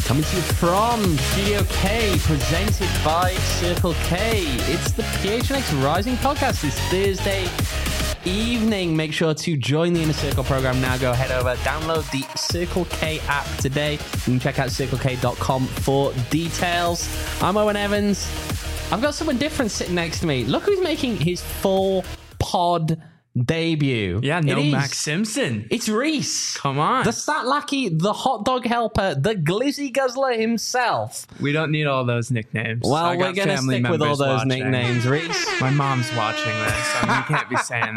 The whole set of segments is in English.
Coming to you from Studio K, presented by Circle K. It's the PHNX Rising podcast this Thursday evening. Make sure to join the Inner Circle program now. Go head over, download the Circle K app today. You can check out circlek.com for details. I'm Owen Evans. I've got someone different sitting next to me. Look who's making his full pod debut. Yeah, no Max Simpson. It's Reese. Come on. The stat lackey, the hot dog helper, the glizzy guzzler himself. We don't need all those nicknames. Well, we're going to stick with all those nicknames, Reese. My mom's watching this. I mean, you can't be saying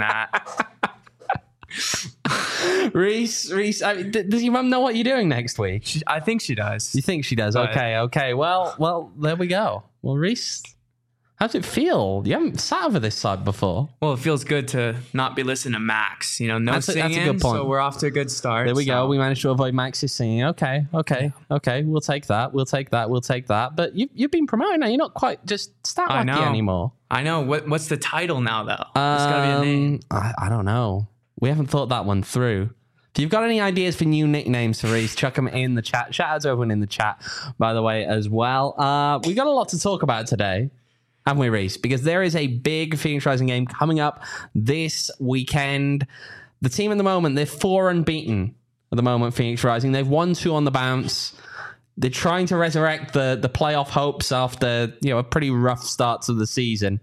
that. Reese, does your mum know what you're doing next week? I think she does. You think she does? But Okay. Well, there we go. Well, Reese, how's it feel? You haven't sat over this side before. Well, it feels good to not be listening to Max. You know, no singing, that's a good point. So we're off to a good start. There we go. We managed to avoid Max's singing. Okay. We'll take that. But you've been promoted now. You're not quite just stat lucky anymore. I know. What's the title now, though? There's got to be a name. I don't know. We haven't thought that one through. If you've got any ideas for new nicknames for Reese, chuck them in the chat. Shout out to everyone in the chat, by the way, as well. We've got a lot to talk about today, haven't we, Reese? Because there is a big Phoenix Rising game coming up this weekend. The team at the moment, they're 4 unbeaten at the moment, Phoenix Rising. They've won 2 on the bounce. They're trying to resurrect the playoff hopes after a pretty rough start to the season.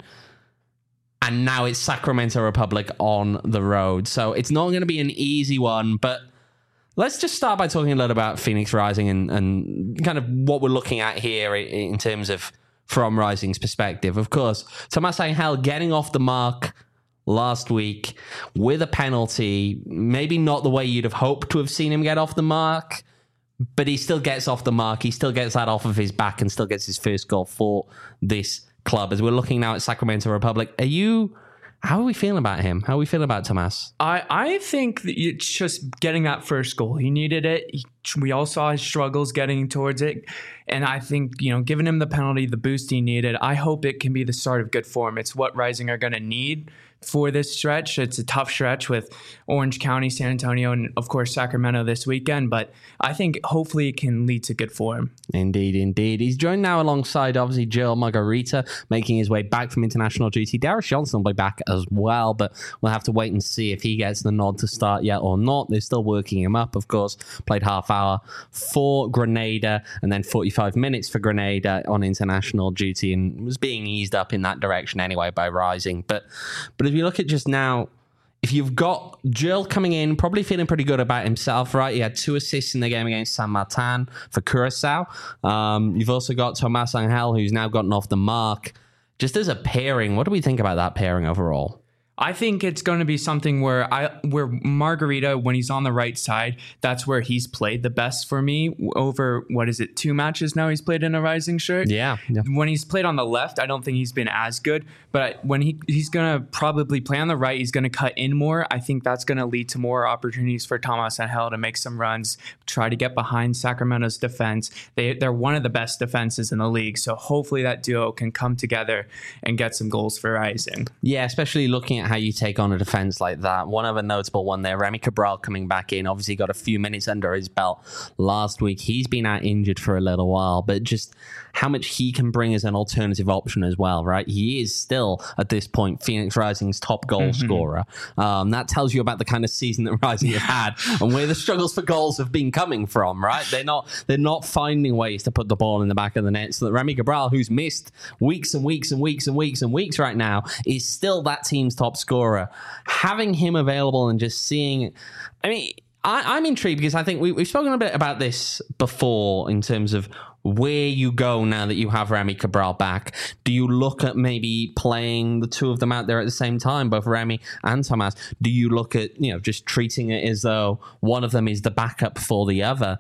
And now it's Sacramento Republic on the road. So it's not going to be an easy one, but let's just start by talking a little about Phoenix Rising and kind of what we're looking at here in terms of from Rising's perspective. Of course, Tomas Angel getting off the mark last week with a penalty. Maybe not the way you'd have hoped to have seen him get off the mark, but he still gets off the mark. He still gets that off of his back and still gets his first goal for this club. As we're looking now at Sacramento Republic, how are we feeling about him? How are we feeling about Tomas? I think that it's just getting that first goal. He needed it. We all saw his struggles getting towards it. And I think, giving him the penalty, the boost he needed, I hope it can be the start of good form. It's what Rising are going to need for this stretch. It's a tough stretch with Orange County, San Antonio, and of course Sacramento this weekend, but I think hopefully it can lead to good form. Indeed. He's joined now alongside obviously Joel Margarita, making his way back from international duty. Darius Johnson will be back as well, but we'll have to wait and see if he gets the nod to start yet or not. They're still working him up, of course. Played half hour for Grenada and then 45 minutes for Grenada on international duty and was being eased up in that direction anyway by Rising. But if you look at just now, if you've got Joel coming in, probably feeling pretty good about himself, right? He had 2 assists in the game against San Martin for Curacao. You've also got Tomas Angel, who's now gotten off the mark. Just as a pairing, what do we think about that pairing overall? I think it's going to be something where Margarita, when he's on the right side, that's where he's played the best for me over, 2 matches now he's played in a Rising shirt? Yeah. When he's played on the left, I don't think he's been as good. But when he's going to probably play on the right, he's going to cut in more. I think that's going to lead to more opportunities for Tomas Angel to make some runs, try to get behind Sacramento's defense. They're one of the best defenses in the league. So hopefully that duo can come together and get some goals for Rising. Yeah, especially looking at how you take on a defense like that. One other notable one there, Remy Cabral coming back in, obviously got a few minutes under his belt last week. He's been out injured for a little while, but just how much he can bring as an alternative option as well, right? He is still, at this point, Phoenix Rising's top goal scorer. That tells you about the kind of season that Rising have had and where the struggles for goals have been coming from, right? They're not finding ways to put the ball in the back of the net, so that Remy Cabral, who's missed weeks and weeks and weeks and weeks and weeks right now, is still that team's top scorer. Having him available and just seeing, I'm intrigued because I think we've spoken a bit about this before in terms of where you go now that you have Remy Cabral back. Do you look at maybe playing the 2 of them out there at the same time, both Remy and Tomas? Do you look at, just treating it as though one of them is the backup for the other?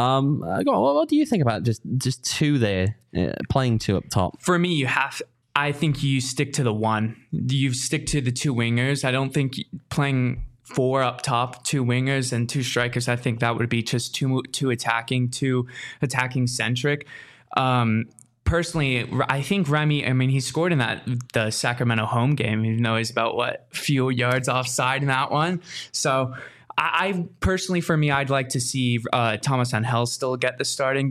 What do you think about just 2 there, playing 2 up top? For me, I think you stick to the one. You stick to the 2 wingers. I don't think playing 4 up top, 2 wingers and 2 strikers, I think that would be just too attacking centric. Personally, I think Remy, he scored in the Sacramento home game, even though he's about few yards offside in that one. So I personally, for me, I'd like to see Tomas Angel still get the starting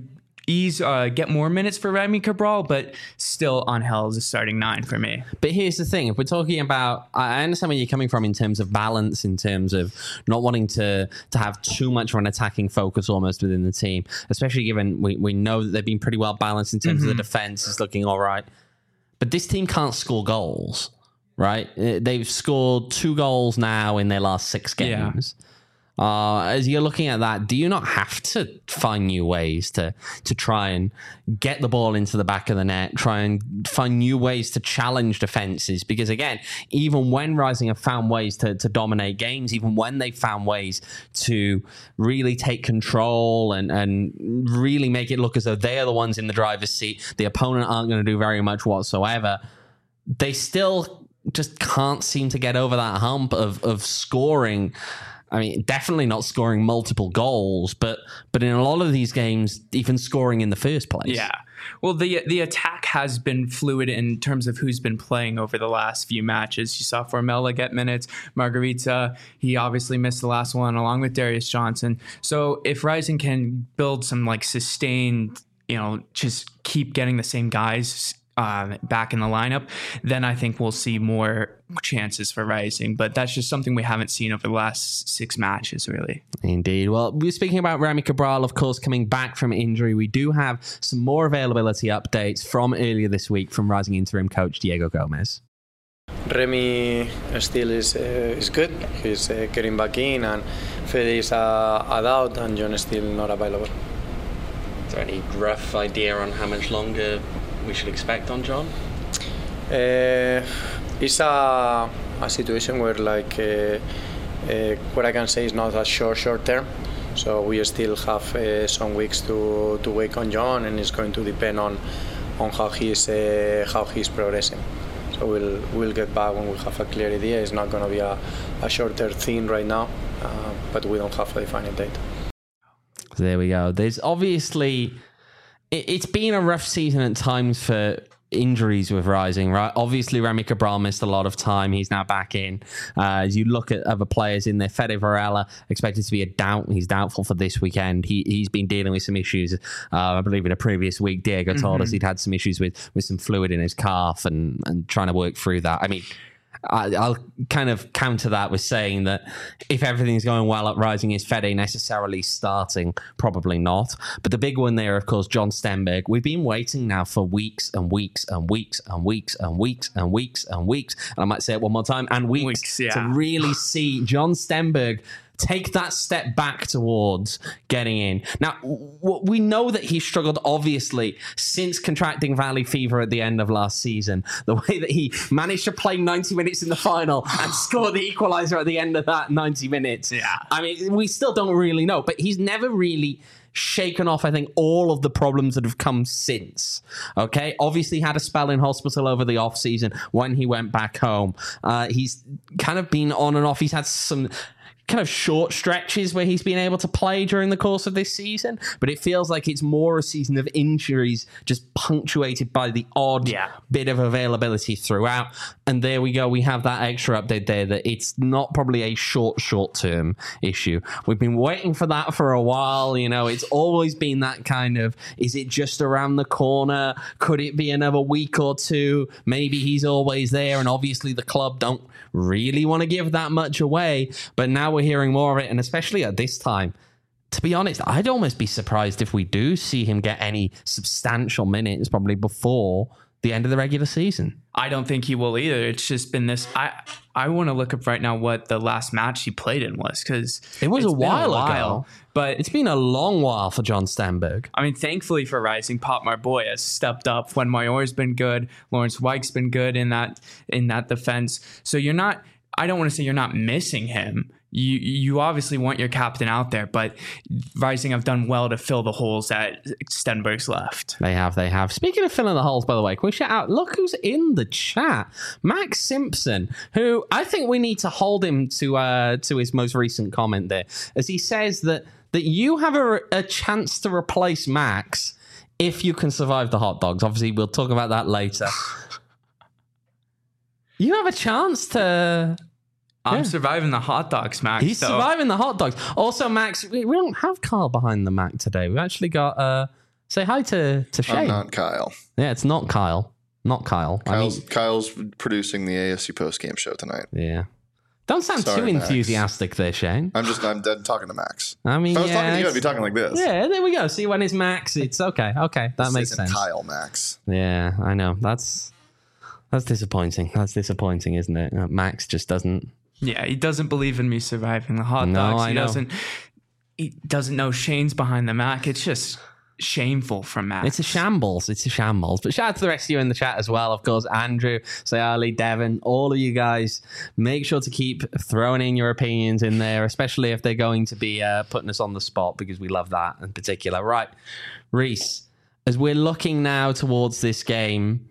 get more minutes for Remy Cabral, but still Angel is a starting 9 for me. But here's the thing. If we're talking about, I understand where you're coming from in terms of balance, in terms of not wanting to have too much of an attacking focus almost within the team, especially given we know that they've been pretty well balanced in terms of the defense is looking all right. But this team can't score goals, right? They've scored 2 goals now in their last 6 games. Yeah. As you're looking at that, do you not have to find new ways to try and get the ball into the back of the net, try and find new ways to challenge defenses? Because again, even when Rising have found ways to dominate games, even when they've found ways to really take control and really make it look as though they are the ones in the driver's seat, the opponent aren't going to do very much whatsoever, they still just can't seem to get over that hump of scoring. I mean, definitely not scoring multiple goals, but in a lot of these games, even scoring in the first place. Yeah. Well, the attack has been fluid in terms of who's been playing over the last few matches. You saw Formella get minutes. Margarita, he obviously missed the last one, along with Darius Johnson. So if Rising can build some like sustained, just keep getting the same guys back in the lineup, then I think we'll see more chances for Rising. But that's just something we haven't seen over the last 6 matches, really. Indeed. Well, we're speaking about Remy Cabral, of course, coming back from injury. We do have some more availability updates from earlier this week from Rising interim coach Diego Gomez. Remy still is good. He's getting back in, and Fede is a doubt, and John is still not available. Is there any rough idea on how much longer we should expect on John? It's a situation where what I can say is not a short term. So we still have some weeks to wait on John, and it's going to depend on how he's progressing. So we'll get back when we have a clear idea. It's not going to be a shorter thing right now, but we don't have a defined date. There we go. There's obviously, it's been a rough season at times for injuries with Rising, right? Obviously, Remy Cabral missed a lot of time. He's now back in. As you look at other players in there, Fede Varela expected to be a doubt. He's doubtful for this weekend. He's been dealing with some issues. I believe in a previous week, Diego told us he'd had some issues with some fluid in his calf and trying to work through that. I mean, I'll kind of counter that with saying that if everything's going well at Rising, is Fede necessarily starting? Probably not. But the big one there, of course, John Stenberg. We've been waiting now for weeks and weeks and weeks and weeks and weeks and weeks and weeks. And I might say it one more time, and weeks to really see John Stenberg take that step back towards getting in. Now, we know that he struggled, obviously, since contracting valley fever at the end of last season. The way that he managed to play 90 minutes in the final and score the equalizer at the end of that 90 minutes. Yeah. I mean, we still don't really know, but he's never really shaken off, I think, all of the problems that have come since. Okay, obviously had a spell in hospital over the off season when he went back home. He's kind of been on and off. He's had some kind of short stretches where he's been able to play during the course of this season, but it feels like it's more a season of injuries just punctuated by the odd bit of availability throughout. And there we go. We have that extra update there that it's not probably a short-term issue. We've been waiting for that for a while. It's always been that kind of, is it just around the corner? Could it be another week or two? Maybe he's always there. And obviously the club don't really want to give that much away, but now we're hearing more of it, and especially at this time, to be honest, I'd almost be surprised if we do see him get any substantial minutes probably before the end of the regular season. I don't think he will either. It's just been this. I want to look up right now what the last match he played in was, because it was a while ago. But it's been a long while for John Stenberg. I mean, thankfully for Rising, Pop Marboy has stepped up. When Mayor's been good, Lawrence Weich's been good in that defense. So you're not. I don't want to say you're not missing him. You obviously want your captain out there, but Rising have done well to fill the holes that Stenberg's left. They have. Speaking of filling the holes, by the way, can we shout out, look who's in the chat. Max Simpson, who I think we need to hold him to his most recent comment there, as he says that you have a chance to replace Max if you can survive the hot dogs. Obviously, we'll talk about that later. You have a chance to... I'm surviving the hot dogs, Max. He's surviving the hot dogs. Also, Max, we don't have Carl behind the Mac today. We've actually got Say hi to Shane. I'm not Kyle. Yeah, it's not Kyle. Not Kyle. Kyle's producing the ASU post-game show tonight. Yeah. Don't sound too enthusiastic there, Shane. I'm talking to Max. I mean, if I was talking to you, I'd be talking like this. Yeah, there we go. See, when it's Max, it's okay. Okay, that makes sense. Kyle Max. Yeah, I know. That's disappointing. That's disappointing, isn't it? Max just doesn't. Yeah, he doesn't believe in me surviving the hot dogs. He doesn't know Shane's behind the Mac. It's just shameful from Max. It's a shambles. But shout out to the rest of you in the chat as well. Of course, Andrew, Sayali, Devin, all of you guys. Make sure to keep throwing in your opinions in there, especially if they're going to be putting us on the spot, because we love that in particular. Right, Reese, as we're looking now towards this game,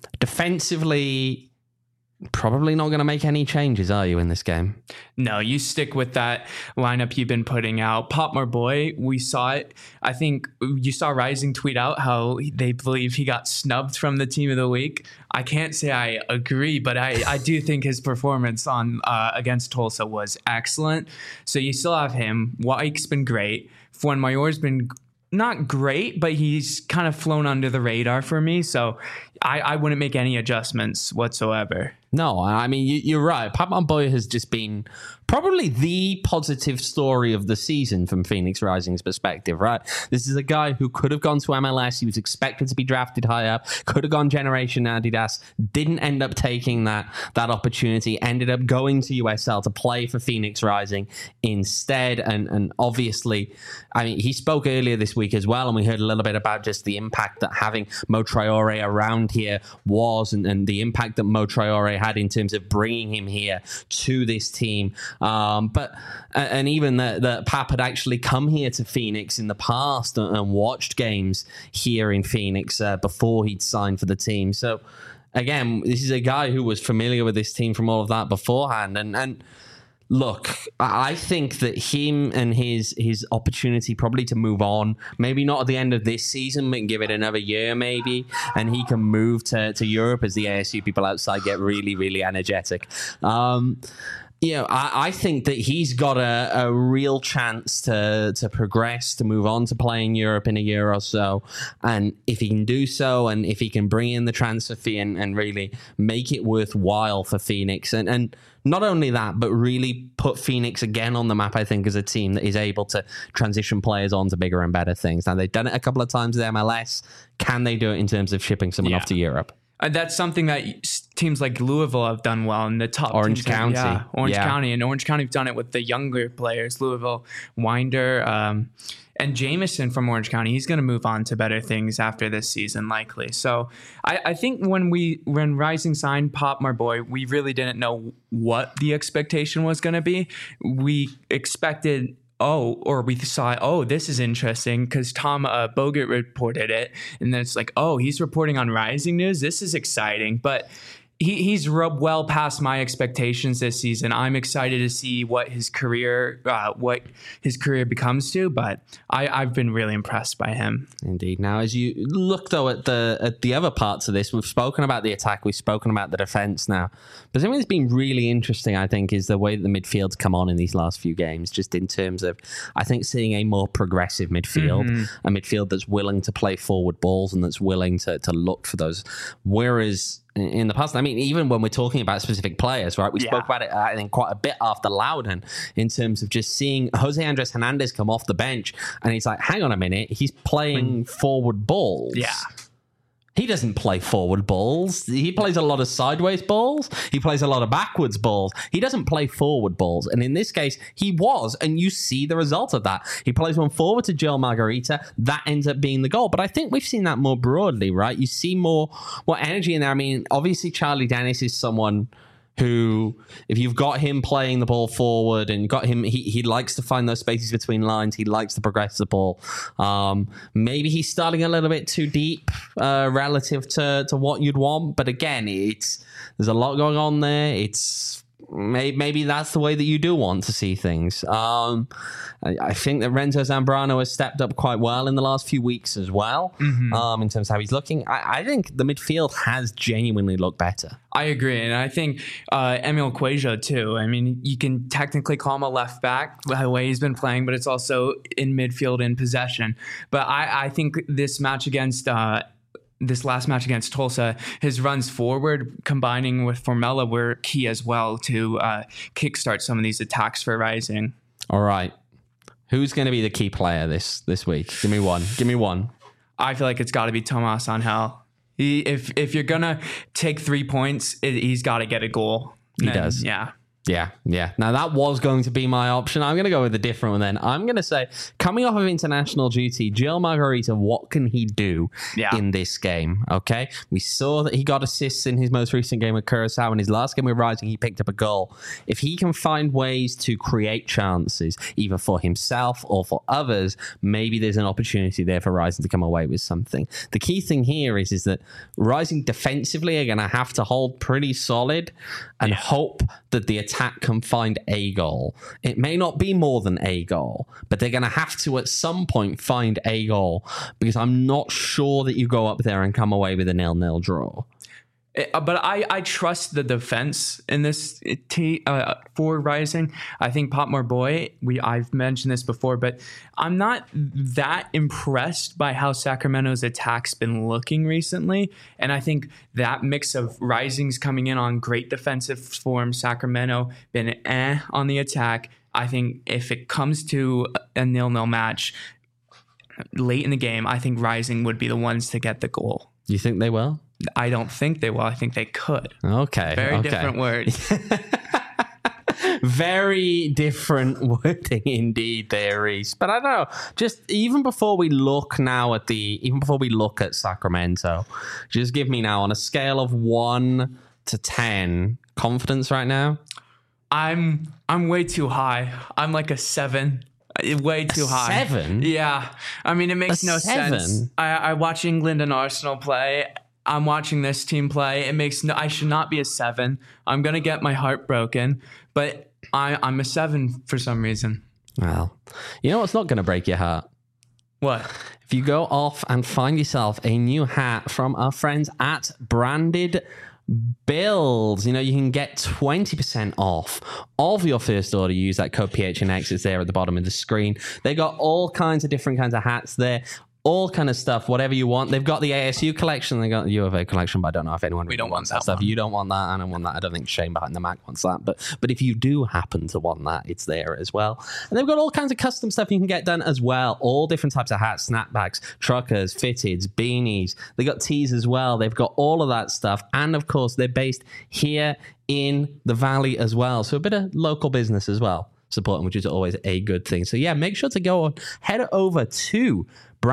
defensively, probably not going to make any changes, are you, in this game? No, you stick with that lineup you've been putting out. Popmar Boy, we saw it. I think you saw Rising tweet out how they believe he got snubbed from the team of the week. I can't say I agree, but I do think his performance on against Tulsa was excellent. So you still have him. White's been great. Fuenmayor's been not great, but he's kind of flown under the radar for me. So I wouldn't make any adjustments whatsoever. No, I mean, you're right. Popmar Boy has just been probably the positive story of the season from Phoenix Rising's perspective, right? This is a guy who could have gone to MLS. He was expected to be drafted high up, could have gone Generation Adidas, didn't end up taking that opportunity, ended up going to USL to play for Phoenix Rising instead. And obviously, I mean, he spoke earlier this week as well, and we heard a little bit about just the impact that having Mo Traore around here was, and the impact that Mo Traore had in terms of bringing him here to this team. But even that Pap had actually come here to Phoenix in the past and watched games here in Phoenix before he'd signed for the team. So again, this is a guy who was familiar with this team from all of that beforehand. And look, I think that him and his opportunity probably to move on, maybe not at the end of this season, but give it another year maybe, and he can move to Europe as the ASU people outside get really, really energetic. I think that he's got a real chance to progress, to move on to play in Europe in a year or so. And if he can do so, and if he can bring in the transfer fee and really make it worthwhile for Phoenix, and not only that, but really put Phoenix again on the map, I think, as a team that is able to transition players on to bigger and better things. Now, they've done it a couple of times with MLS. Can they do it in terms of shipping someone off to Europe? That's something that teams like Louisville have done well in the top Orange County. Orange County. And Orange County have done it with the younger players, Louisville, Winder, and Jameson from Orange County. He's going to move on to better things after this season, likely. So I think when Rising signed Popmar Boy, we really didn't know what the expectation was going to be. We expected... we saw, this is interesting because Tom Bogert reported it. And then it's like, he's reporting on Rising News. This is exciting. But he's rubbed well past my expectations this season. I'm excited to see what his career becomes to, but I've been really impressed by him. Indeed. Now, as you look though at the other parts of this, we've spoken about the attack, we've spoken about the defense now, but something that's been really interesting, I think, is the way that the midfield's come on in these last few games, just in terms of, I think, seeing a more progressive midfield, a midfield that's willing to play forward balls and that's willing to look for those. Whereas in the past, I mean, even when we're talking about specific players, right? We spoke about it, I think, quite a bit after Loudon in terms of just seeing Jose Andres Hernandez come off the bench and he's like, hang on a minute, he's playing forward balls. Yeah. He doesn't play forward balls. He plays a lot of sideways balls. He plays a lot of backwards balls. He doesn't play forward balls. And in this case, he was. And you see the result of that. He plays one forward to Joel Margarita. That ends up being the goal. But I think we've seen that more broadly, right? You see more energy in there. I mean, obviously, Charlie Dennis is someone who, if you've got him playing the ball forward and got him, he likes to find those spaces between lines. He likes to progress the ball. Maybe he's starting a little bit too deep relative to what you'd want. But again, there's a lot going on there. It's maybe that's the way that you do want to see things. I think that Renzo Zambrano has stepped up quite well in the last few weeks as well, in terms of how he's looking. I think the midfield has genuinely looked better. I agree. And I think Emil Cuellar too. I mean, you can technically call him a left back the way he's been playing, but it's also in midfield in possession. But I think this last match against Tulsa, his runs forward combining with Formella were key as well to kickstart some of these attacks for Rising. All right. Who's going to be the key player this week? Give me one. I feel like it's got to be Tomas Angel. If you're going to take 3 points, he's got to get a goal. He does. Yeah. Yeah. Now, that was going to be my option. I'm going to go with a different one then. I'm going to say, coming off of international duty, Gil Margarita, what can he do in this game? Okay. We saw that he got assists in his most recent game with Curaçao. In his last game with Rising, he picked up a goal. If he can find ways to create chances, either for himself or for others, maybe there's an opportunity there for Rising to come away with something. The key thing here is that Rising defensively are going to have to hold pretty solid and hope that the attack can find a goal. It may not be more than a goal, but they're going to have to at some point find a goal, because I'm not sure that you go up there and come away with a 0-0 draw. But I trust the defense in this for Rising. I think Potmore Boy, I've mentioned this before, but I'm not that impressed by how Sacramento's attack's been looking recently. And I think that mix of Rising's coming in on great defensive form, Sacramento been on the attack. I think if it comes to a 0-0 match late in the game, I think Rising would be the ones to get the goal. You think they will? I don't think they will. I think they could. Okay. Very different words. Very different wording indeed there, Reese. But I don't know. Just even before we look at Sacramento, just give me now on a scale of 1 to 10 confidence right now. I'm way too high. I'm like a 7. Way too high. 7? Yeah. I mean, it makes no sense. I watch England and Arsenal play. I'm watching this team play. I should not be a 7. I'm going to get my heart broken, but I'm a 7 for some reason. Well, you know what's not going to break your heart? What? If you go off and find yourself a new hat from our friends at Branded Bills, you can get 20% off of your first order. Use that code PHNX. It's there at the bottom of the screen. They got all kinds of different kinds of hats there. All kind of stuff, whatever you want. They've got the ASU collection. They got the U of A collection, but I don't know if anyone really wants that stuff. You don't want that. I don't want that. I don't think Shane behind the Mac wants that. But if you do happen to want that, it's there as well. And they've got all kinds of custom stuff you can get done as well. All different types of hats, snapbacks, truckers, fitteds, beanies. They got tees as well. They've got all of that stuff. And of course, they're based here in the Valley as well. So a bit of local business as well. Supporting, which is always a good thing. So yeah, make sure to go on, head over to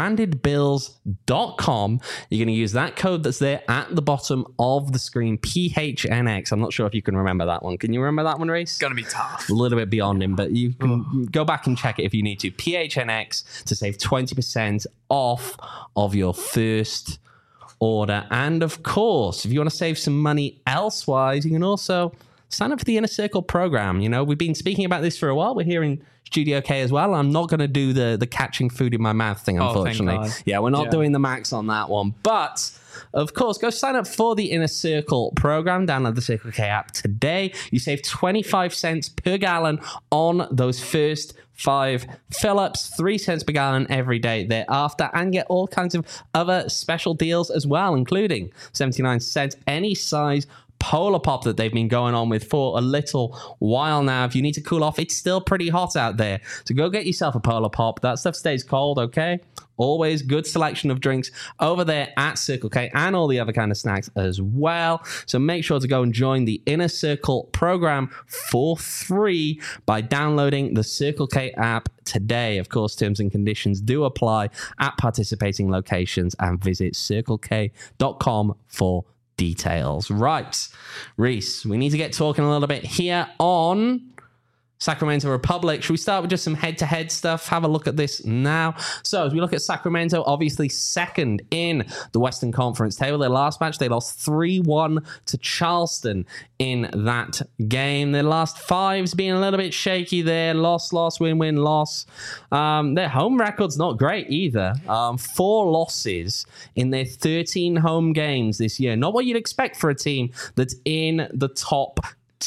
brandedbills.com. You're going to use that code that's there at the bottom of the screen, PHNX. I'm not sure if you can remember that one. Can you remember that one, Reese? It's going to be tough. A little bit beyond him, but you can go back and check it if you need to. PHNX to save 20% off of your first order. And of course, if you want to save some money elsewise, you can also sign up for the Inner Circle program. We've been speaking about this for a while. We're here in Studio K as well. I'm not going to do the catching food in my mouth thing, unfortunately. Yeah, we're not doing the max on that one. But, of course, go sign up for the Inner Circle program. Download the Circle K app today. You save 25 cents per gallon on those first 5 fill-ups, 3 cents per gallon every day thereafter, and get all kinds of other special deals as well, including 79 cents any size Polar Pop that they've been going on with for a little while now. If you need to cool off, it's still pretty hot out there, so go get yourself a Polar Pop. That stuff stays cold, okay? Always good selection of drinks over there at Circle K and all the other kind of snacks as well. So make sure to go and join the Inner Circle program for free by downloading the Circle K app today. Of course, terms and conditions do apply at participating locations, and visit circlek.com for details. Right, Reese, we need to get talking a little bit here on Sacramento Republic. Should we start with just some head-to-head stuff? Have a look at this now. So as we look at Sacramento, obviously second in the Western Conference table. Their last match, they lost 3-1 to Charleston in that game. Their last five's been a little bit shaky there. Loss, win, loss. Their home record's not great either. 4 losses in their 13 home games this year. Not what you'd expect for a team that's in the top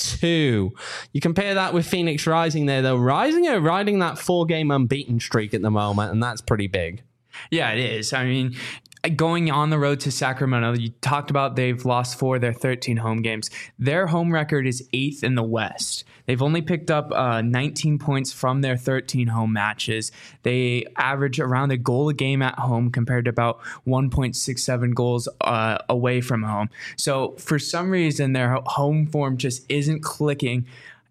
2. You compare that with Phoenix Rising there, though. Rising are riding that 4-game unbeaten streak at the moment, and that's pretty big. Yeah, it is. I mean, going on the road to Sacramento, you talked about they've lost 4 of their 13 home games. Their home record is 8th in the West. They've only picked up 19 points from their 13 home matches. They average around a goal a game at home compared to about 1.67 goals away from home. So for some reason, their home form just isn't clicking.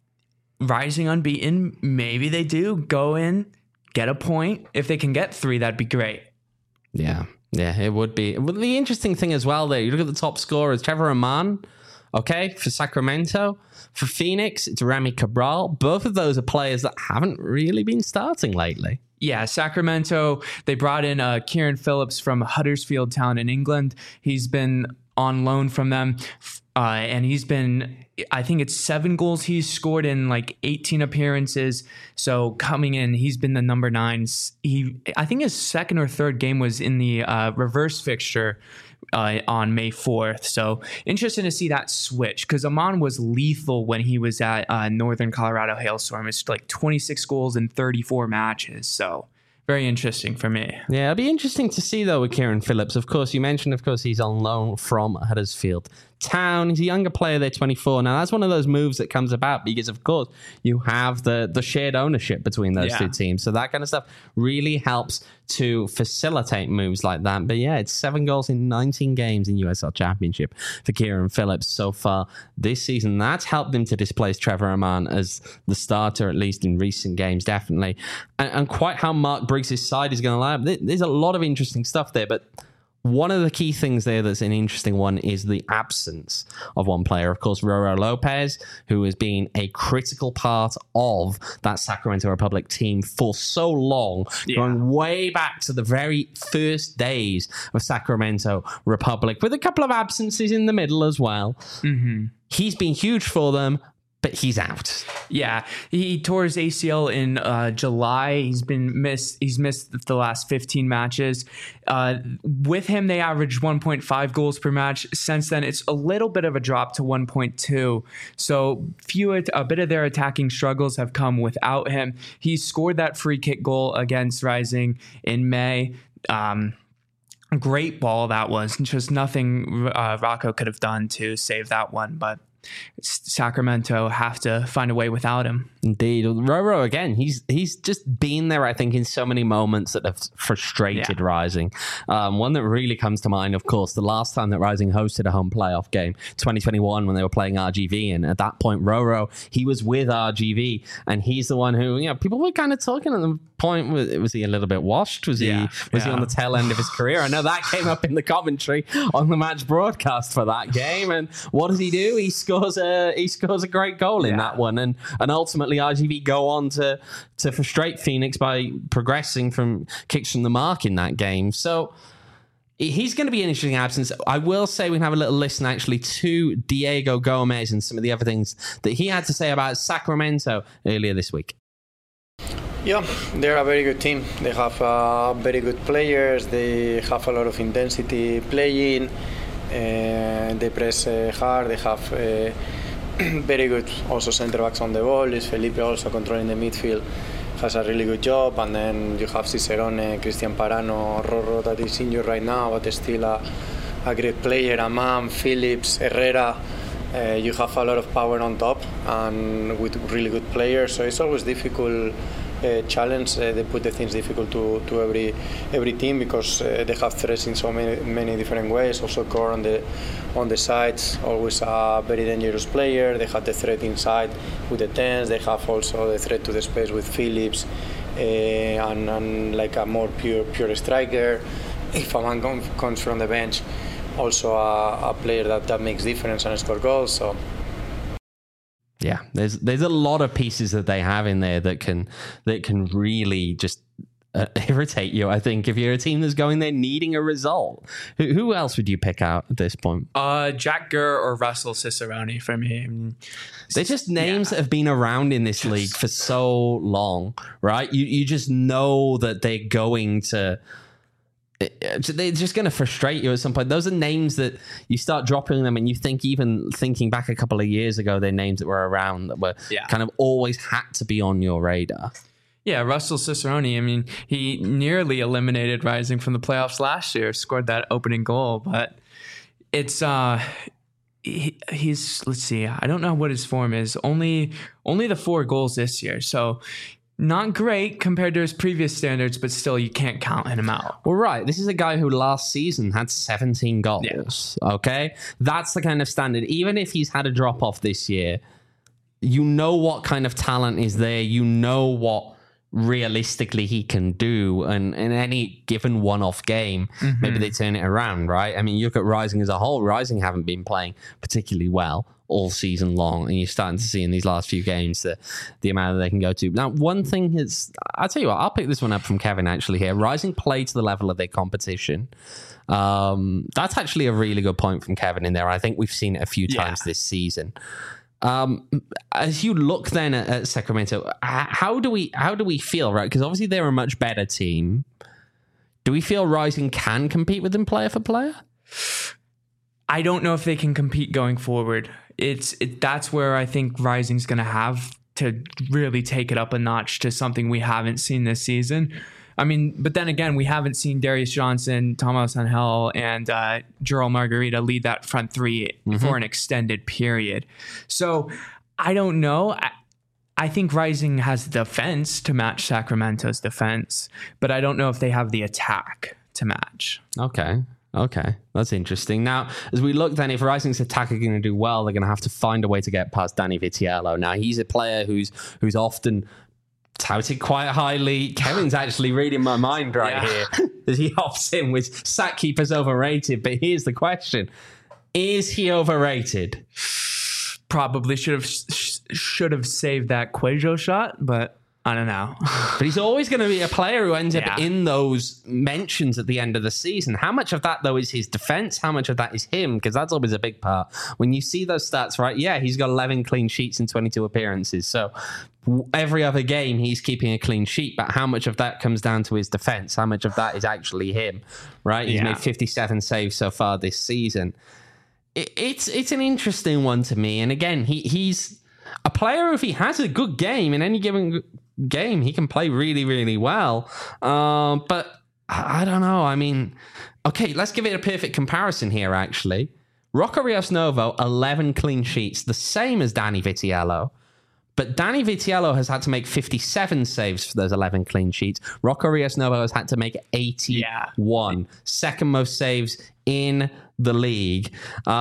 Rising unbeaten, maybe they do go in, get a point. If they can get 3, that'd be great. Yeah, it would be. Well, the interesting thing as well there, you look at the top scorers, Trevor Aman, okay, for Sacramento. For Phoenix, it's Rami Cabral. Both of those are players that haven't really been starting lately. Yeah, Sacramento, they brought in Kieran Phillips from Huddersfield Town in England. He's been on loan from them, and he's been, I think it's 7 goals he's scored in like 18 appearances. So coming in, he's been the number 9. I think his second or third game was in the reverse fixture on May 4th. So interesting to see that switch, because Aman was lethal when he was at Northern Colorado Hailstorm. It's like 26 goals in 34 matches. So very interesting for me. Yeah, it'll be interesting to see, though, with Kieran Phillips. Of course, you mentioned, he's on loan from Huddersfield Town. He's a younger player. They're 24. Now, that's one of those moves that comes about because, of course, you have the shared ownership between those two teams. So that kind of stuff really helps to facilitate moves like that. But yeah, it's 7 goals in 19 games in USL Championship for Kieran Phillips so far this season. That's helped him to displace Trevor Aman as the starter, at least in recent games, definitely. And quite how Mark Briggs' side is going to line up. There's a lot of interesting stuff there, but one of the key things there that's an interesting one is the absence of one player. Of course, Roro Lopez, who has been a critical part of that Sacramento Republic team for so long, going way back to the very first days of Sacramento Republic, with a couple of absences in the middle as well. Mm-hmm. He's been huge for them, but he's out. Yeah, he tore his ACL in July. He's missed the last 15 matches. With him, they averaged 1.5 goals per match. Since then, it's a little bit of a drop to 1.2. So a bit of their attacking struggles have come without him. He scored that free kick goal against Rising in May. Great ball that was. Just nothing Rocco could have done to save that one, but Sacramento have to find a way without him. Indeed. Roro, again, he's just been there, I think, in so many moments that have frustrated Rising. One that really comes to mind, of course, the last time that Rising hosted a home playoff game, 2021, when they were playing RGV. And at that point, Roro, he was with RGV, and he's the one who, people were kind of talking at the point, was he a little bit washed? Was he on the tail end of his career? I know that came up in the commentary on the match broadcast for that game. And what does he do? He scores a great goal in that one, and ultimately RGV go on to frustrate Phoenix by progressing from kicks from the mark in that game. So he's going to be an interesting absence. I will say we can have a little listen actually to Diego Gomez and some of the other things that he had to say about Sacramento earlier this week. Yeah, they're a very good team. They have very good players. They have a lot of intensity playing. They press hard. They have very good also center backs on the ball. Luis Felipe also controlling the midfield has a really good job. And then you have Cicerone, Cristian Parano, Roro that is injured right now, but still a great player. Aman, Phillips, Herrera. You have a lot of power on top and with really good players. So it's always difficult. Challenge. They put the things difficult to every team because they have threats in so many different ways. Also, Core on the sides, always a very dangerous player. They have the threat inside with the 10s. They have also the threat to the space with Phillips and like a more pure striker. If a man comes from the bench, also a player that makes difference and score goals. So. Yeah, there's a lot of pieces that they have in there that can really just irritate you. I think if you're a team that's going there needing a result, who else would you pick out at this point? Jack Gurr or Russell Cicerone for me. I mean, they're just names that have been around in this league for so long, right? You just know that they're going to. They're just going to frustrate you at some point. Those are names that you start dropping them, and you think, even thinking back a couple of years ago, they're names that were around that were kind of always had to be on your radar. Yeah, Russell Cicerone, I mean, he nearly eliminated Rising from the playoffs last year, scored that opening goal, but it's he's let's see, I don't know what his form is. Only the 4 goals this year. So not great compared to his previous standards, but still you can't count him out. Well, right. This is a guy who last season had 17 goals. Yeah. Okay? That's the kind of standard. Even if he's had a drop off this year, you know what kind of talent is there. You know what realistically he can do, and in any given one-off game, maybe they turn it around, right? I mean, you look at Rising as a whole. Rising haven't been playing particularly well all season long, and you're starting to see in these last few games the amount that they can go to. Now, one thing is, I'll tell you what, I'll pick this one up from Kevin actually here. Rising play to the level of their competition. That's actually a really good point from Kevin in there. I think we've seen it a few times this season. As you look then at Sacramento, how do we feel, right? Because obviously they're a much better team. Do we feel Rising can compete with them player for player? I don't know if they can compete going forward. That's where I think Rising's going to have to really take it up a notch to something we haven't seen this season. I mean, but then again, we haven't seen Darius Johnson, Thomas Angel, and Gerald Margarita lead that front three for an extended period. So I don't know. I think Rising has the defense to match Sacramento's defense, but I don't know if they have the attack to match. Okay, that's interesting. Now, as we look then, if Rising's attack are going to do well, they're going to have to find a way to get past Danny Vitiello. Now, he's a player who's often touted quite highly. Kevin's actually reading my mind here as he hops in with sack keepers overrated. But here's the question: is he overrated? Probably should have saved that Cuejo shot, but I don't know. But he's always going to be a player who ends up in those mentions at the end of the season. How much of that, though, is his defense? How much of that is him? Because that's always a big part. When you see those stats, right? Yeah, he's got 11 clean sheets in 22 appearances. So every other game, he's keeping a clean sheet. But how much of that comes down to his defense? How much of that is actually him, right? He's made 57 saves so far this season. It's an interesting one to me. And again, he's a player, if he has a good game in any given game, he can play really, really well. But I don't know. I mean, okay, let's give it a perfect comparison here, actually. Rocco Rios Novo, 11 clean sheets, the same as Danny Vitiello. But Danny Vitiello has had to make 57 saves for those 11 clean sheets. Rocco Rios Novo has had to make 81. Second most saves in the league.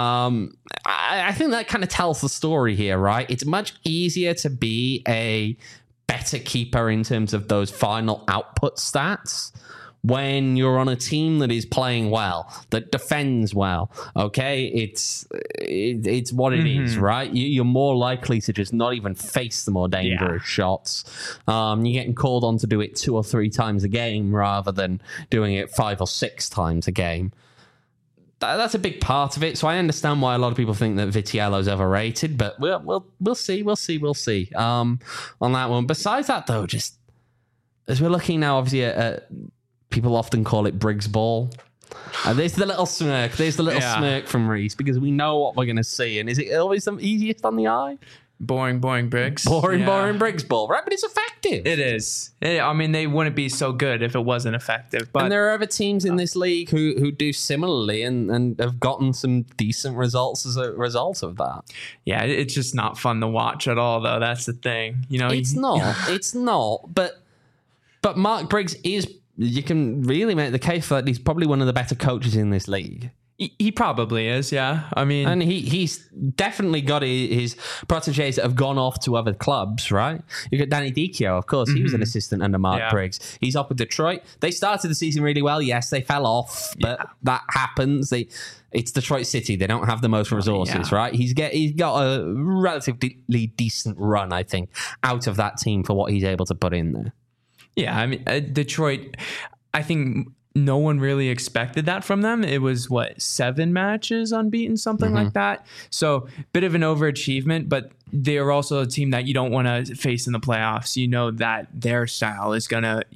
I think that kind of tells the story here, right? It's much easier to be a better keeper in terms of those final output stats when you're on a team that is playing well, that defends well. Okay, it's what it is, right? You're more likely to just not even face the more dangerous shots. You're getting called on to do it 2 or 3 times a game rather than doing it 5 or 6 times a game. That's a big part of it. So I understand why a lot of people think that Vitiello's overrated, but we'll see on that one. Besides that, though, just as we're looking now, obviously, at people often call it Briggs ball. There's the little smirk. There's the little smirk from Reese because we know what we're going to see. And is it always the easiest on the eye? Boring Briggs. Boring Briggs ball, right? But it's effective. It is. I mean, they wouldn't be so good if it wasn't effective. But and there are other teams in this league who do similarly and have gotten some decent results as a result of that. Yeah, it's just not fun to watch at all, though. That's the thing. You know, it's not. But Mark Briggs is. You can really make the case that he's probably one of the better coaches in this league. He probably is, yeah. I mean, And he's definitely got his proteges that have gone off to other clubs, right? You got Danny Dicchio, of course. He was an assistant under Mark Briggs. He's up with Detroit. They started the season really well. Yes, they fell off, but that happens. It's Detroit City. They don't have the most resources, right? He's got a relatively decent run, I think, out of that team for what he's able to put in there. yeah, I mean, Detroit, I think no one really expected that from them. It was 7 matches unbeaten, something like that. So bit of an overachievement, but they are also a team that you don't want to face in the playoffs. You know that their style is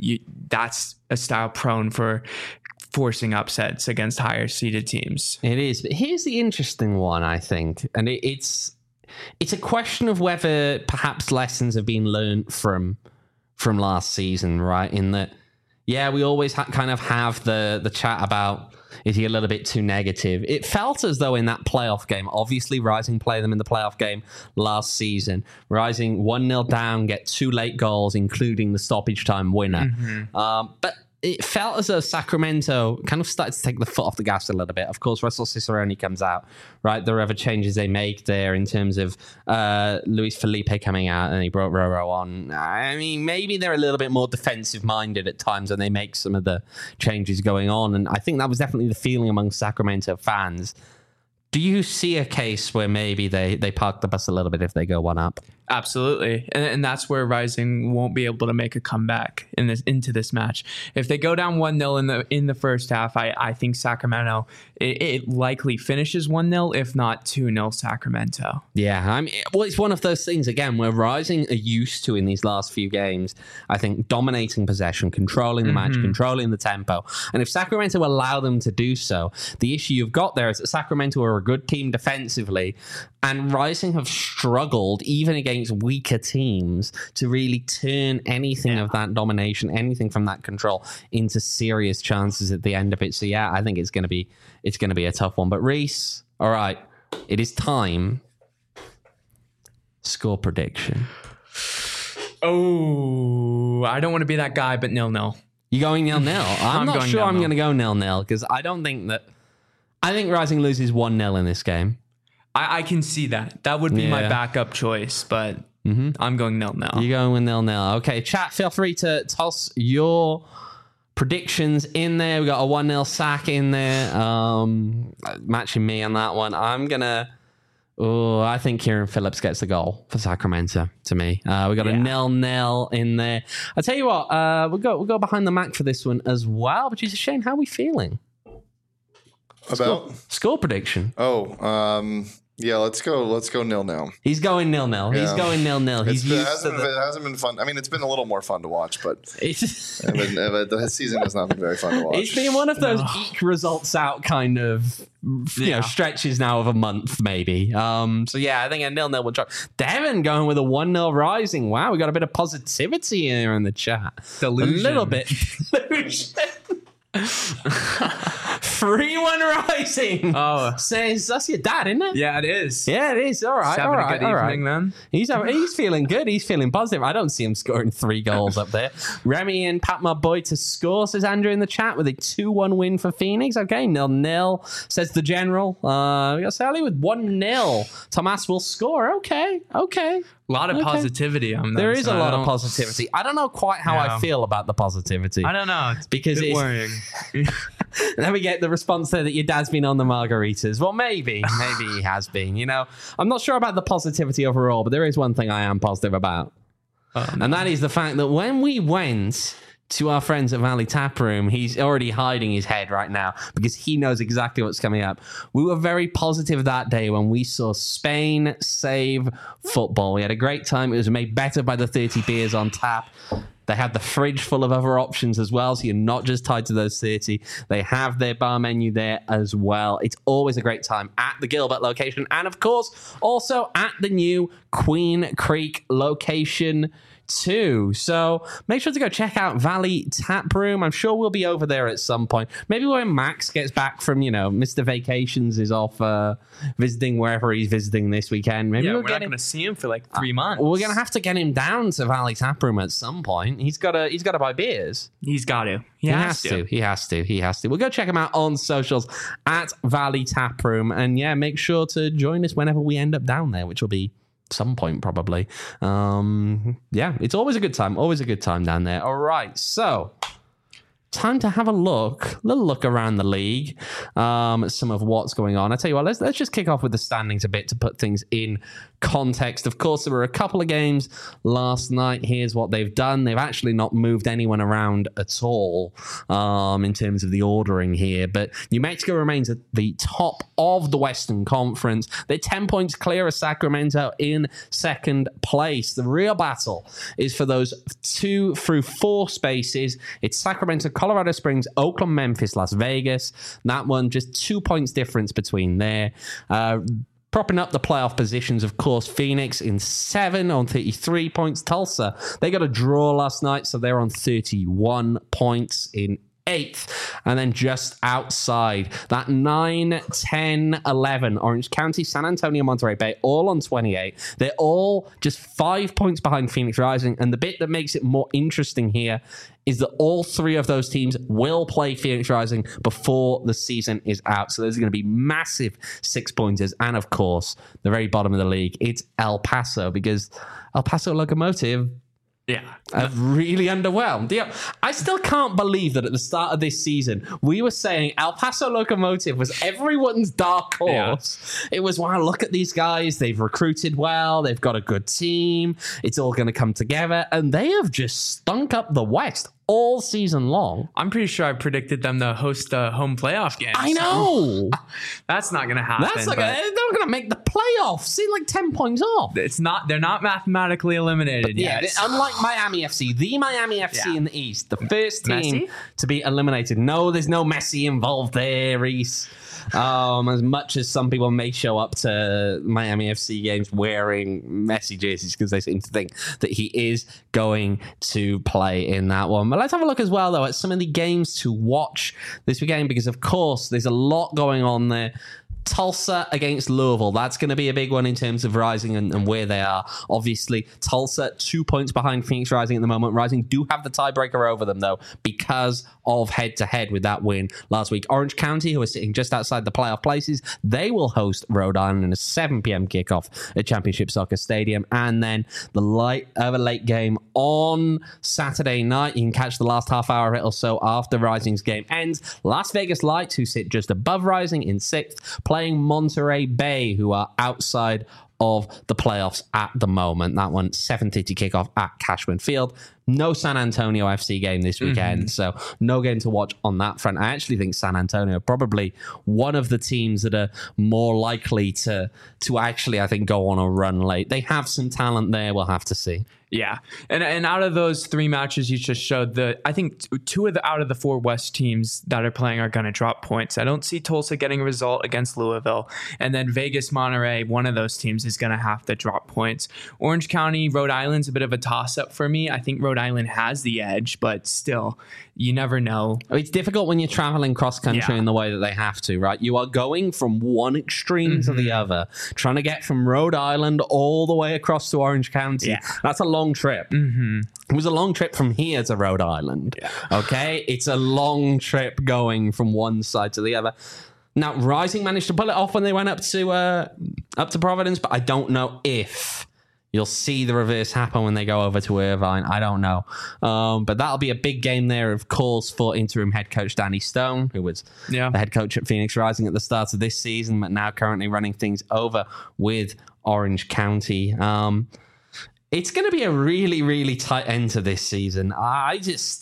that's a style prone for forcing upsets against higher seeded teams. It is. But here's the interesting one, I think. And it's a question of whether perhaps lessons have been learned from last season, right? In that, yeah, we always kind of have the chat about, is he a little bit too negative? It felt as though in that playoff game, obviously Rising played them in the playoff game last season. Rising 1-0 down, get 2 late goals, including the stoppage time winner. But it felt as though Sacramento kind of started to take the foot off the gas a little bit. Of course, Russell Cicerone comes out, right? There are other changes they make there in terms of Luis Felipe coming out, and he brought Roro on. I mean, maybe they're a little bit more defensive-minded at times when they make some of the changes going on, and I think that was definitely the feeling among Sacramento fans. Do you see a case where maybe they park the bus a little bit if they go one up? Absolutely. And that's where Rising won't be able to make a comeback into this match. If they go down 1-0 in the first half, I think Sacramento, it likely finishes 1-0, if not 2-0 Sacramento. Yeah, I mean, well, it's one of those things, again, where Rising are used to in these last few games, I think, dominating possession, controlling the match, controlling the tempo. And if Sacramento allow them to do so, the issue you've got there is that Sacramento are a good team defensively, and Rising have struggled, even against weaker teams, to really turn anything of that domination, anything from that control, into serious chances at the end of it. So yeah, I think it's going to be a tough one. But Reese, all right, it is time. Score prediction. Oh, I don't want to be that guy, but 0-0. You going 0-0? I'm not sure 0-0. I'm going to go 0-0 because I don't think that. I think Rising loses 1-0 in this game. I can see that. That would be my backup choice, but I'm going 0-0. You're going with 0-0. Okay, chat, feel free to toss your predictions in there. We got a 1-0 sack in there. Matching me on that one. I think Kieran Phillips gets the goal for Sacramento to me. We got a 0-0 in there. I'll tell you what, we'll go behind the Mac for this one as well. But Jesus, Shane, how are we feeling? About Score prediction. Yeah, let's go 0-0. He's going 0-0. He's going 0-0. It hasn't been fun. I mean, it's been a little more fun to watch, but the season has not been very fun to watch. It's been one of those eke results out kind of stretches now of a month, maybe. So yeah, I think a 0-0 will drop. Devin going with a 1-0 Rising. Wow, we got a bit of positivity here in the chat. Delusion. A little bit. Delusion. 3-1 Rising. Oh, says that's your dad, isn't it? yeah, it is. Yeah, it is. All right. Having a good evening, then. He's feeling good. He's feeling positive. I don't see him scoring 3 goals up there. Remy and Pat, my boy, to score, says Andrew in the chat, with a 2-1 win for Phoenix. Okay, 0-0, says the general. We got Sally with 1-0. Tomas will score. Okay. A lot of positivity on that. There is a lot of positivity. I don't know quite how I feel about the positivity. I don't know. It's because a bit worrying. Then we get the response there that your dad's been on the margaritas. Well, maybe he has been. You know, I'm not sure about the positivity overall, but there is one thing I am positive about. And that is the fact that when we went to our friends at Valley Tap Room, he's already hiding his head right now because he knows exactly what's coming up. We were very positive that day when we saw Spain save football. We had a great time. It was made better by the 30 beers on tap. They have the fridge full of other options as well, so you're not just tied to those 30. They have their bar menu there as well. It's always a great time at the Gilbert location, and of course, also at the new Queen Creek location too. So make sure to go check out Valley Tap Room. I'm sure we'll be over there at some point. Maybe when Max gets back from, Mr. Vacations is off visiting wherever he's visiting this weekend. Maybe we're not going to see him for like 3 months. We're going to have to get him down to Valley Tap Room at some point. He's got to buy beers. He's got to. He has to. We'll go check him out on socials at Valley Tap Room. And yeah, make sure to join us whenever we end up down there, which will be some point probably. It's always a good time down there. All right, so time to have a little look around the league, some of what's going on. I tell you what, let's just kick off with the standings a bit to put things in context. Of course, there were a couple of games last night. Here's what they've done. They've actually not moved anyone around at all in terms of the ordering here, but New Mexico remains at the top of the Western Conference. They're 10 points clear of Sacramento in second place. The real battle is for those 2 through 4 spaces. It's Sacramento, Colorado Springs, Oakland, Memphis, Las Vegas. That one, just 2 points difference between there. Propping up the playoff positions, of course, Phoenix in 7 on 33 points. Tulsa, they got a draw last night, so they're on 31 points in 8th. And then just outside, that 9, 10, 11, Orange County, San Antonio, Monterey Bay, all on 28. They're all just 5 points behind Phoenix Rising. And the bit that makes it more interesting here is that all 3 of those teams will play Phoenix Rising before the season is out. So there's going to be massive 6-pointers. And of course, the very bottom of the league, it's El Paso, because El Paso Locomotive have really underwhelmed. Yeah, I still can't believe that at the start of this season, we were saying El Paso Locomotive was everyone's dark horse. Yeah. It was, wow, look at these guys. They've recruited well. They've got a good team. It's all going to come together. And they have just stunk up the West all season long. I'm pretty sure I predicted them to host a home playoff game. I know. That's not going to happen. They're not going to make the playoffs. See, like 10 points off. They're not mathematically eliminated yet. Unlike Miami FC, the Miami FC in the East, the first team to be eliminated. No, there's no Messi involved there, Reese. As much as some people may show up to Miami FC games wearing Messi jerseys because they seem to think that he is going to play in that one. But let's have a look as well, though, at some of the games to watch this weekend, because, of course, there's a lot going on there. Tulsa against Louisville. That's going to be a big one in terms of Rising and where they are. Obviously, Tulsa 2 points behind Phoenix Rising at the moment. Rising do have the tiebreaker over them, though, because of head-to-head with that win last week. Orange County, who are sitting just outside the playoff places, they will host Rhode Island in a 7 p.m. kickoff at Championship Soccer Stadium. And then the late game on Saturday night. You can catch the last half hour of it or so after Rising's game ends. Las Vegas Lights, who sit just above Rising in 6th, playing Monterey Bay, who are outside of the playoffs at the moment. That one, 7:30 kickoff at Cashman Field. No San Antonio FC game this weekend, so no game to watch on that front. I actually think San Antonio are probably one of the teams that are more likely to actually, I think, go on a run late. They have some talent there. We'll have to see. Yeah, and out of those 3 matches you just showed, I think 2 out of the 4 West teams that are playing are going to drop points. I don't see Tulsa getting a result against Louisville, and then Vegas, Monterey, one of those teams is going to have to drop points. Orange County, Rhode Island's a bit of a toss-up for me. I think Rhode Island has the edge, but still, you never know. It's difficult when you're traveling cross-country in the way that they have to, right? You are going from one extreme to the other, trying to get from Rhode Island all the way across to Orange County. Yeah. That's a long trip. It was a long trip from here to Rhode Island. Okay, it's a long trip going from one side to the other. Now, Rising managed to pull it off when they went up to Providence, but I don't know if you'll see the reverse happen when they go over to Irvine. I don't know. But that'll be a big game there, of course, for interim head coach Danny Stone, who was the head coach at Phoenix Rising at the start of this season, but now currently running things over with Orange County. It's going to be a really, really tight end to this season. I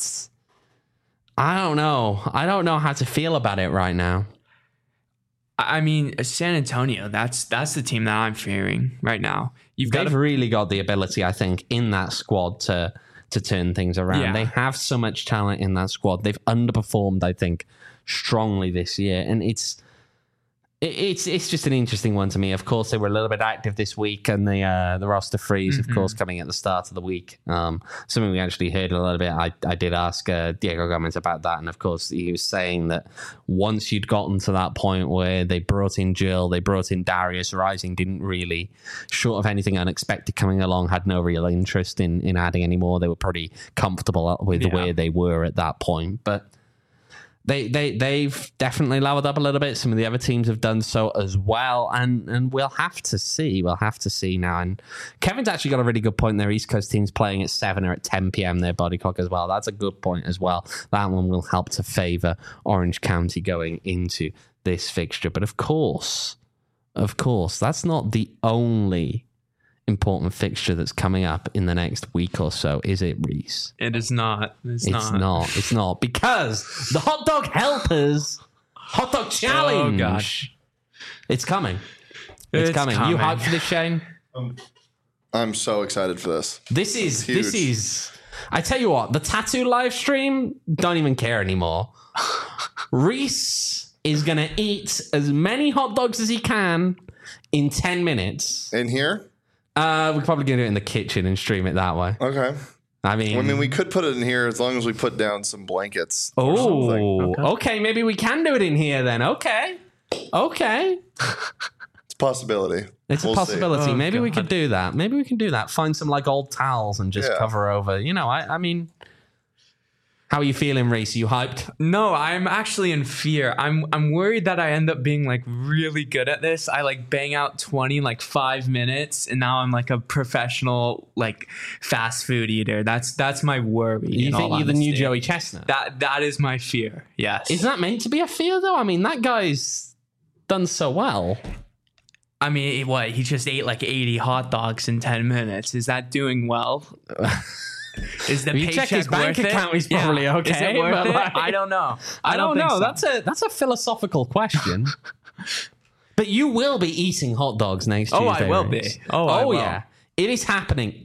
don't know. I don't know how to feel about it right now. I mean, San Antonio, that's the team that I'm fearing right now. They've really got the ability, I think, in that squad to turn things around. Yeah. They have so much talent in that squad. They've underperformed, I think, strongly this year. And It's just an interesting one to me. Of course, they were a little bit active this week, and the roster freeze, of course, coming at the start of the week. Something we actually heard a little bit. I did ask Diego Gomez about that, and of course, he was saying that once you'd gotten to that point where they brought in Jill, they brought in Darius, Rising didn't really, short of anything unexpected coming along, had no real interest in adding any more. They were pretty comfortable with the way they were at that point, but. They've definitely leveled up a little bit. Some of the other teams have done so as well, and we'll have to see. We'll have to see now. And Kevin's actually got a really good point there. East Coast teams playing at 7 or at 10 p.m. their body clock as well. That's a good point as well. That one will help to favour Orange County going into this fixture. But of course, that's not the only important fixture that's coming up in the next week or so, is it, Reese? It is not. It's not because the Hot Dog Helpers Hot Dog Challenge. Oh gosh, it's coming. It's coming. You hyped for this, Shane? I'm so excited for this. This is. I tell you what, the tattoo live stream, don't even care anymore. Reese is gonna eat as many hot dogs as he can in 10 minutes. In here? We're probably going to do it in the kitchen and stream it that way. Okay. I mean, we could put it in here as long as we put down some blankets. Oh, okay. Maybe we can do it in here then. Okay. It's a possibility. It's a possibility. Maybe we could do that. Find some like old towels and just cover over. You know, I mean... How are you feeling, Reese? Are you hyped? No, I'm actually in fear. I'm worried that I end up being like really good at this. I like bang out 20 in like 5 minutes, and now I'm like a professional like fast food eater. That's my worry. You think you're the new Joey Chestnut? That is my fear. Yes. Is that meant to be a fear though? I mean, that guy's done so well. I mean, what? He just ate like 80 hot dogs in 10 minutes. Is that doing well? Is the paycheck check his bank worth account? It? He's probably okay. Is it worth it? Like, I don't know. I don't know. So. That's a philosophical question. But you will be eating hot dogs next Tuesday. Oh, I will Reese. be. I will. Yeah. It is happening.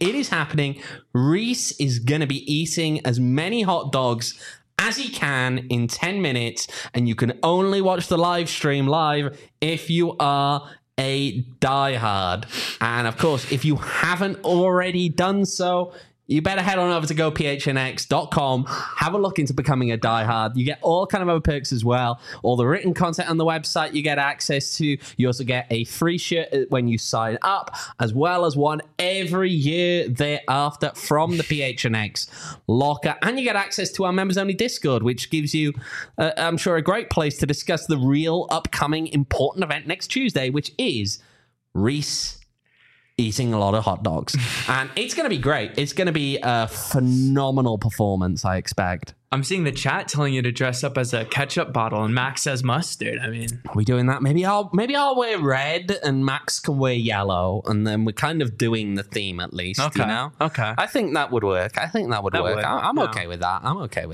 Reese is going to be eating as many hot dogs as he can in 10 minutes, and you can only watch the live stream live if you are a diehard. And of course, if you haven't already done so, you better head on over to gophnx.com, have a look into becoming a diehard. You get all kind of other perks as well. All the written content on the website you get access to. You also get a free shirt when you sign up, as well as one every year thereafter from the PHNX locker. And you get access to our members-only Discord, which gives you, I'm sure, a great place to discuss the real upcoming important event next Tuesday, which is Reese eating a lot of hot dogs. And it's going to be great. It's going to be a phenomenal performance, I expect. I'm seeing the chat telling you to dress up as a ketchup bottle, and Max says mustard. I mean, are we doing that? Maybe I'll wear red and Max can wear yellow, and then we're kind of doing the theme at least. Okay. You know? Okay. I think that would work. I'm okay with that.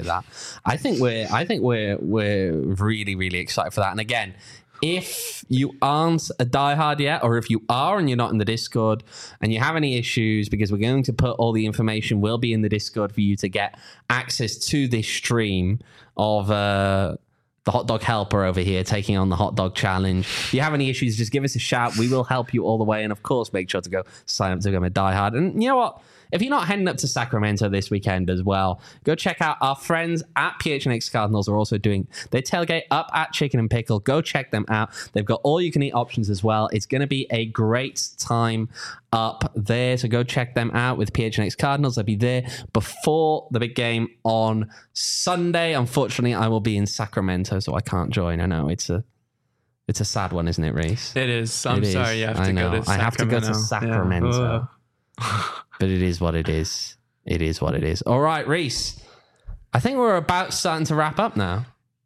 I think we're really, really excited for that. And again, if you aren't a diehard yet, or if you are and you're not in the Discord and you have any issues, because we're going to put all the information will be in the Discord for you to get access to this stream of the Hot Dog Helper over here taking on the Hot Dog Challenge. If you have any issues, just give us a shout. We will help you all the way. And of course, make sure to go sign up to become a diehard. And you know what? If you're not heading up to Sacramento this weekend as well, go check out our friends at PHNX Cardinals are also doing their tailgate up at Chicken and Pickle. Go check them out. They've got all you can eat options as well. It's going to be a great time up there. So go check them out with PHNX Cardinals. They'll be there before the big game on Sunday. Unfortunately, I will be in Sacramento, so I can't join. I know it's a sad one, isn't it, Reese? It is. I'm sorry you have to go to Sacramento. I have to go to Sacramento. Yeah. But it is what it is. It is what it is. All right, Reese. I think we're about starting to wrap up now.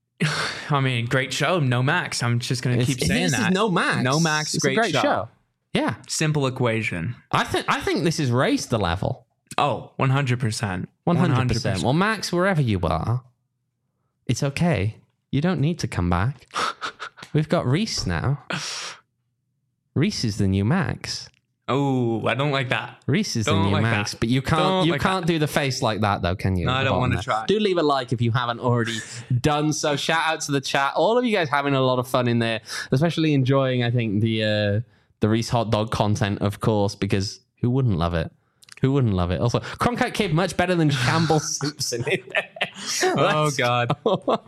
I mean, great show. No Max. I'm just going to keep saying that. This is No Max. No Max. It's great a great show. Yeah. Simple equation. I think this has raised the level. Oh, 100%. 100%. Well, Max, wherever you are, it's okay. You don't need to come back. We've got Reese now. Reese is the new Max. Oh, I don't like that. Reese is the Don't new like Max, that. but you Don't like can't do the face like that though, can you? No, I don't want to try. Do leave a like if you haven't already done so. Shout out to the chat. All of you guys having a lot of fun in there, especially enjoying, I think, the Reese hot dog content, of course, because who wouldn't love it? Who wouldn't love it? Also, Cronkite Kid much better than Shamble Simpson in there. Oh God,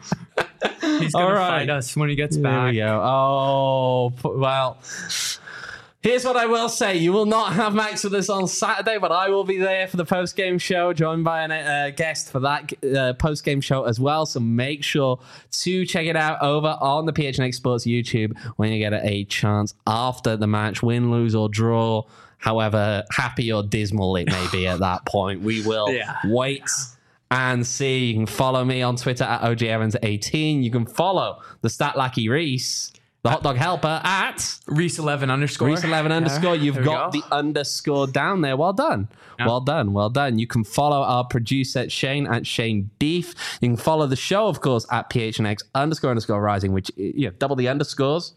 he's gonna fight us when he gets back. There we go. Oh well. Here's what I will say. You will not have Max with us on Saturday, but I will be there for the post-game show, joined by a guest for that post-game show as well. So make sure to check it out over on the PHNX Sports YouTube when you get a chance after the match, win, lose, or draw. However happy or dismal it may be at that point, we will wait and see. You can follow me on Twitter at OGEvans18. You can follow the Stat Lackey Reese, the hot dog helper, at Reese11 underscore. Reese11 underscore. You've got the underscore down there. Well done. Yeah. Well done. Well done. You can follow our producer Shane at Shane Beef. You can follow the show, of course, at PHNX underscore rising, which, double the underscores.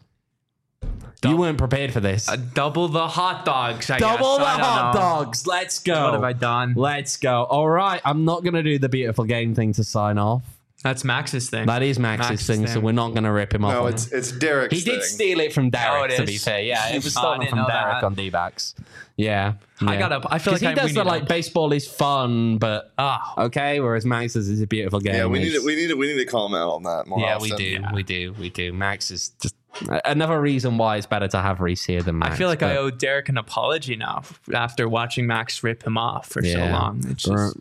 You weren't prepared for this. Double the hot dogs. Double the hot dogs. Let's go. What have I done? Let's go. All right. I'm not going to do the beautiful game thing to sign off. That's Max's thing. That is Max's thing, so we're not going to rip him off. No, it's Derek's He did steal it from Derek, to be fair. Yeah, it was stolen from Derek on D-backs. Yeah. I feel like he does the like baseball is fun, but okay. Whereas Max's is a beautiful game. Yeah, we need to call him out on that more often. We do. Max is just another reason why it's better to have Reese here than Max. I feel like I owe Derek an apology now after watching Max rip him off for so long. It's just...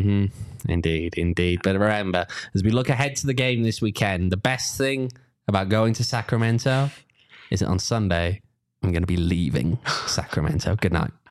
Indeed. But remember, as we look ahead to the game this weekend, the best thing about going to Sacramento is that on Sunday, I'm going to be leaving Sacramento. Good night.